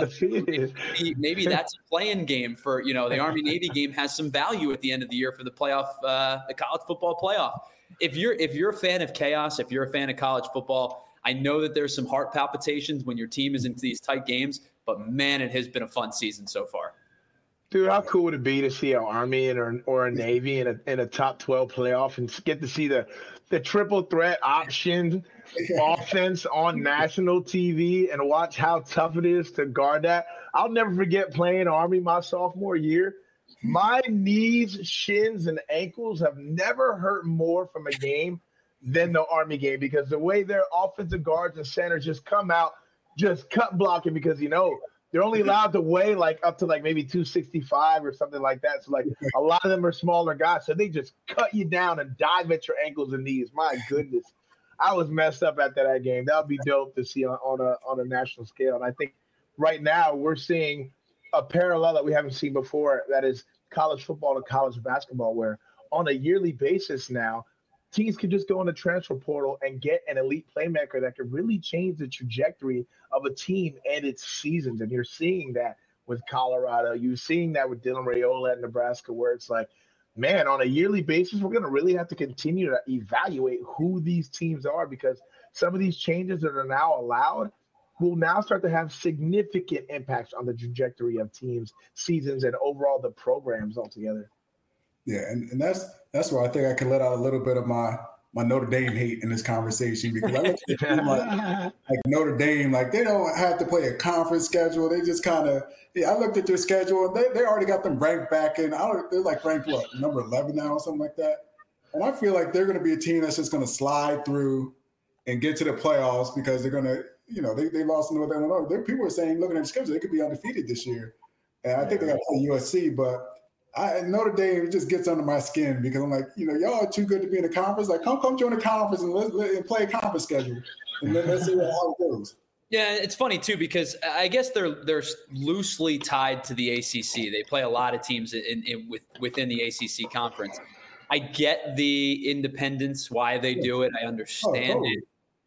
maybe that's a playing game for, the Army-Navy game has some value at the end of the year for the playoff, the college football playoff. If you're a fan of chaos, if you're a fan of college football, I know that there's some heart palpitations when your team is into these tight games, but man, it has been a fun season so far. Dude, how cool would it be to see an Army or a Navy in a top 12 playoff and get to see the triple threat option offense on national TV and watch how tough it is to guard that? I'll never forget playing Army my sophomore year. My knees, shins, and ankles have never hurt more from a game than the Army game because the way their offensive guards and centers just come out, just cut blocking because, they're only allowed to weigh up to maybe 265 or something like that. So a lot of them are smaller guys. So they just cut you down and dive at your ankles and knees. My goodness. I was messed up after that game. That would be dope to see on a national scale. And I think right now we're seeing a parallel that we haven't seen before. That is college football to college basketball, where on a yearly basis now, teams can just go in the transfer portal and get an elite playmaker that could really change the trajectory of a team and its seasons. And you're seeing that with Colorado. You're seeing that with Dylan Raiola at Nebraska, where it's like, man, on a yearly basis, we're going to really have to continue to evaluate who these teams are because some of these changes that are now allowed will now start to have significant impacts on the trajectory of teams, seasons, and overall the programs altogether. Yeah, and that's where I think I can let out a little bit of my Notre Dame hate in this conversation because I look at them like Notre Dame, they don't have to play a conference schedule. They just kind of I looked at their schedule and they already got them ranked back in. They're ranked number 11 now or something like that. And I feel like they're going to be a team that's just going to slide through and get to the playoffs because they're going to they lost in North Illinois. People are saying looking at the schedule they could be undefeated this year, and I think they got to play USC, but. Notre Dame just gets under my skin because I'm like, y'all are too good to be in a conference. Come join a conference and play a conference schedule, and then let's see how it goes. Yeah, it's funny too because I guess they're loosely tied to the ACC. They play a lot of teams within the ACC conference. I get the independence, why they do it. I understand it.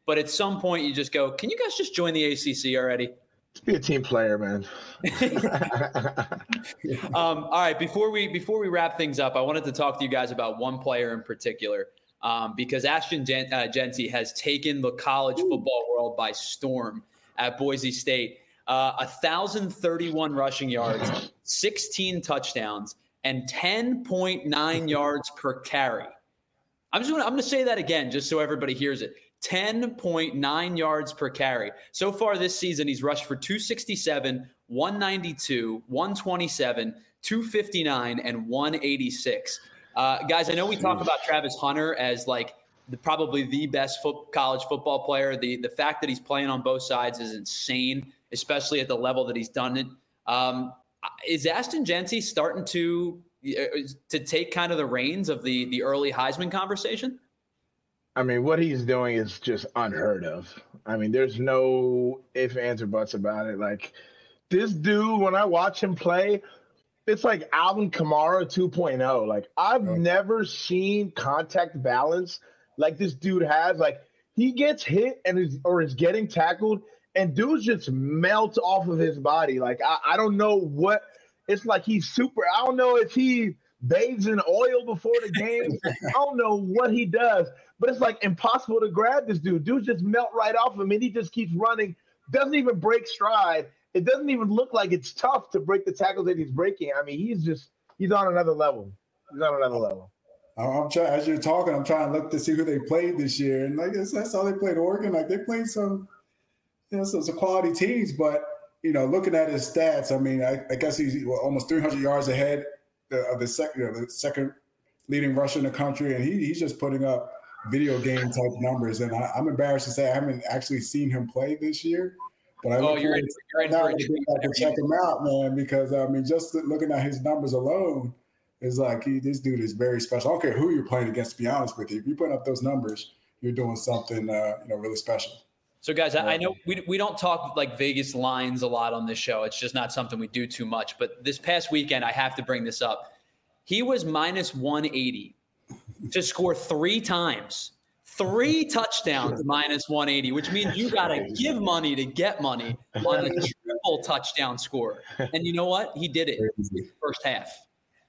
But at some point, you just go, can you guys just join the ACC already? Just be a team player, man. All right. Before we wrap things up, I wanted to talk to you guys about one player in particular, because Ashton Jeanty has taken the college football world by storm at Boise State. 1,031 rushing yards, 16 touchdowns, and 10.9 yards per carry. I'm going to say that again just so everybody hears it. 10.9 yards per carry. So far this season, he's rushed for 267, 192, 127, 259, and 186. Guys, I know we talk about Travis Hunter as like probably the best college football player. The fact that he's playing on both sides is insane, especially at the level that he's done it. Is Ashton Jeanty starting to take kind of the reins of the early Heisman conversation? I mean, what he's doing is just unheard of. I mean, there's no ifs, ands, or buts about it. Like, this dude, when I watch him play, it's like Alvin Kamara 2.0. Like, I've never seen contact balance like this dude has. Like, he gets hit and is getting tackled, and dudes just melt off of his body. Like, I don't know what – it's like he's super – I don't know if he bathes in oil before the game. I don't know what he does. But it's like impossible to grab this dude. Dudes just melt right off him, and he just keeps running. Doesn't even break stride. It doesn't even look like it's tough to break the tackles that he's breaking. I mean, he's on another level. He's on another level. I'm trying, as you're talking, I'm trying to look to see who they played this year, and like that's how they played Oregon. Like they played some quality teams, but looking at his stats, I mean, I guess he's almost 300 yards ahead of the second leading rusher in the country, and he's just putting up video game type numbers, and I'm embarrassed to say I haven't actually seen him play this year. But you're in to check him out, man, because I mean, just looking at his numbers alone is like this dude is very special. I don't care who you're playing against. To be honest with you, if you put up those numbers, you're doing something really special. So, guys, I know we don't talk like Vegas lines a lot on this show. It's just not something we do too much. But this past weekend, I have to bring this up. He was minus 180. To score 3 times, 3 touchdowns minus 180, which means you got to give money to get money on a triple touchdown score. And you know what? He did it in the first half.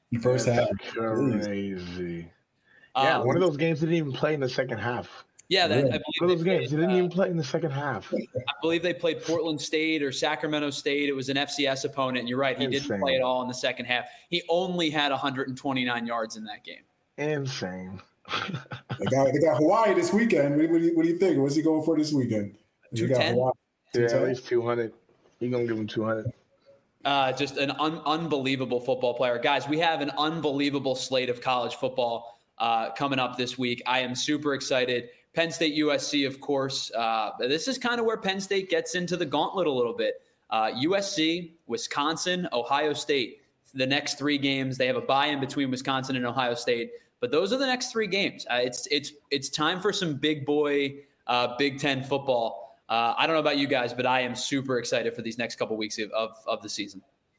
Crazy. Yeah, one of those games didn't even play in the second half. Yeah, one of those games didn't even play in the second half. I believe they played Portland State or Sacramento State. It was an FCS opponent. And you're right. He didn't play at all in the second half. He only had 129 yards in that game. Insane. They got Hawaii this weekend. What do you think? What's he going for this weekend? 210? Yeah, at least 200. He's going to give him 200. Just an unbelievable football player. Guys, we have an unbelievable slate of college football coming up this week. I am super excited. Penn State, USC, of course. This is kind of where Penn State gets into the gauntlet a little bit. USC, Wisconsin, Ohio State. The next 3 games, they have a bye-in between Wisconsin and Ohio State. But those are the next 3 games. It's time for some big boy Big Ten football. I don't know about you guys, but I am super excited for these next couple weeks of the season.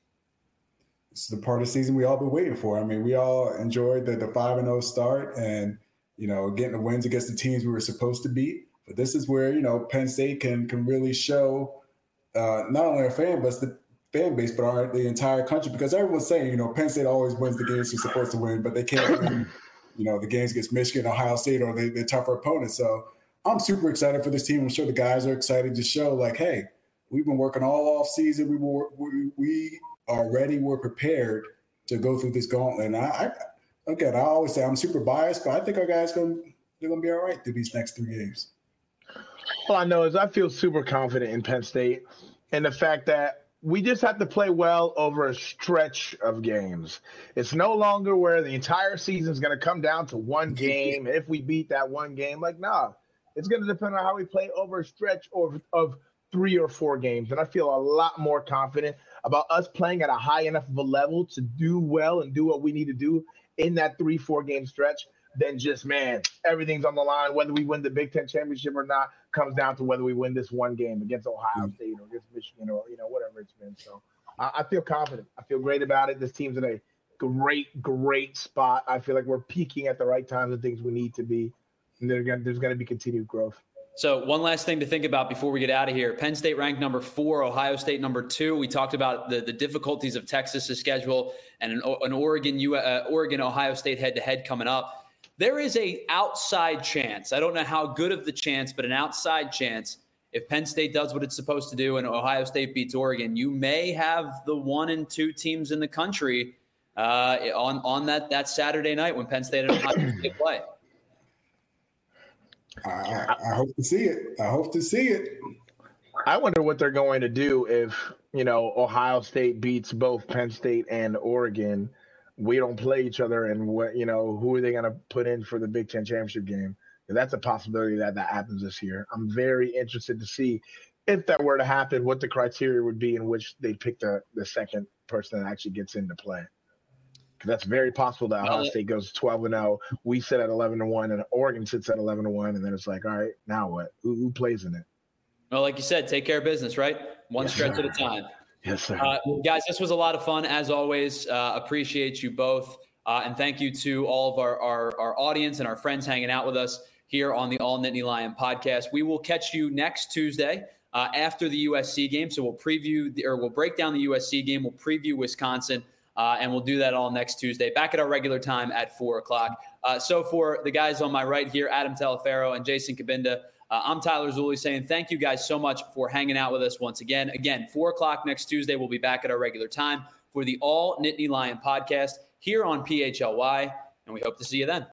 It's the part of the season we all been waiting for. I mean, we all enjoyed the 5-0 start and getting the wins against the teams we were supposed to beat. But this is where Penn State can really show not only our fan base but the entire country, because everyone's saying Penn State always wins the games they're supposed to win, but they can't win. The games against Michigan, Ohio State, or they're tougher opponents. So I'm super excited for this team. I'm sure the guys are excited to show, like, hey, we've been working all off season. We are ready. We're prepared to go through this gauntlet. And I always say I'm super biased, but I think our guys they're gonna be all right through these next 3 games. All I know is I feel super confident in Penn State and the fact that we just have to play well over a stretch of games. It's no longer where the entire season is going to come down to one game. If we beat that one game, it's going to depend on how we play over a stretch of 3 or 4 games. And I feel a lot more confident about us playing at a high enough of a level to do well and do what we need to do in that 3-4 game stretch than just, everything's on the line. Whether we win the Big Ten championship or not comes down to whether we win this one game against Ohio State or against Michigan or, whatever it's been. So I feel confident. I feel great about it. This team's in a great spot. I feel like we're peaking at the right times and things we need to be. And there's going to be continued growth. So one last thing to think about before we get out of here. Penn State ranked number 4, Ohio State number 2. We talked about the difficulties of Texas's schedule and an Oregon-Ohio State head-to-head coming up. There is a outside chance. I don't know how good of the chance, but an outside chance. If Penn State does what it's supposed to do and Ohio State beats Oregon, you may have the 1 and 2 teams in the country on that Saturday night when Penn State and Ohio State play. I hope to see it. I hope to see it. I wonder what they're going to do if, Ohio State beats both Penn State and Oregon. We don't play each other, and who are they going to put in for the Big Ten championship game? And that's a possibility that happens this year. I'm very interested to see if that were to happen, what the criteria would be in which they pick the second person that actually gets into play. Because that's very possible that Ohio State goes 12-0. We sit at 11-1, and Oregon sits at 11-1, and then it's like, all right, now what? Who plays in it? Well, like you said, take care of business, right? One stretch at a time. Yes, sir. Guys, this was a lot of fun, as always. Appreciate you both. And thank you to all of our audience and our friends hanging out with us here on the All Nittany Lion podcast. We will catch you next Tuesday after the USC game. So we'll break down the USC game. We'll preview Wisconsin, and we'll do that all next Tuesday, back at our regular time at 4:00. So for the guys on my right here, Adam Telefero and Jason Cabinda, I'm Tyler Zulli saying thank you guys so much for hanging out with us once again. Again, 4:00 next Tuesday, we'll be back at our regular time for the All Nittany Lion podcast here on PHLY, and we hope to see you then.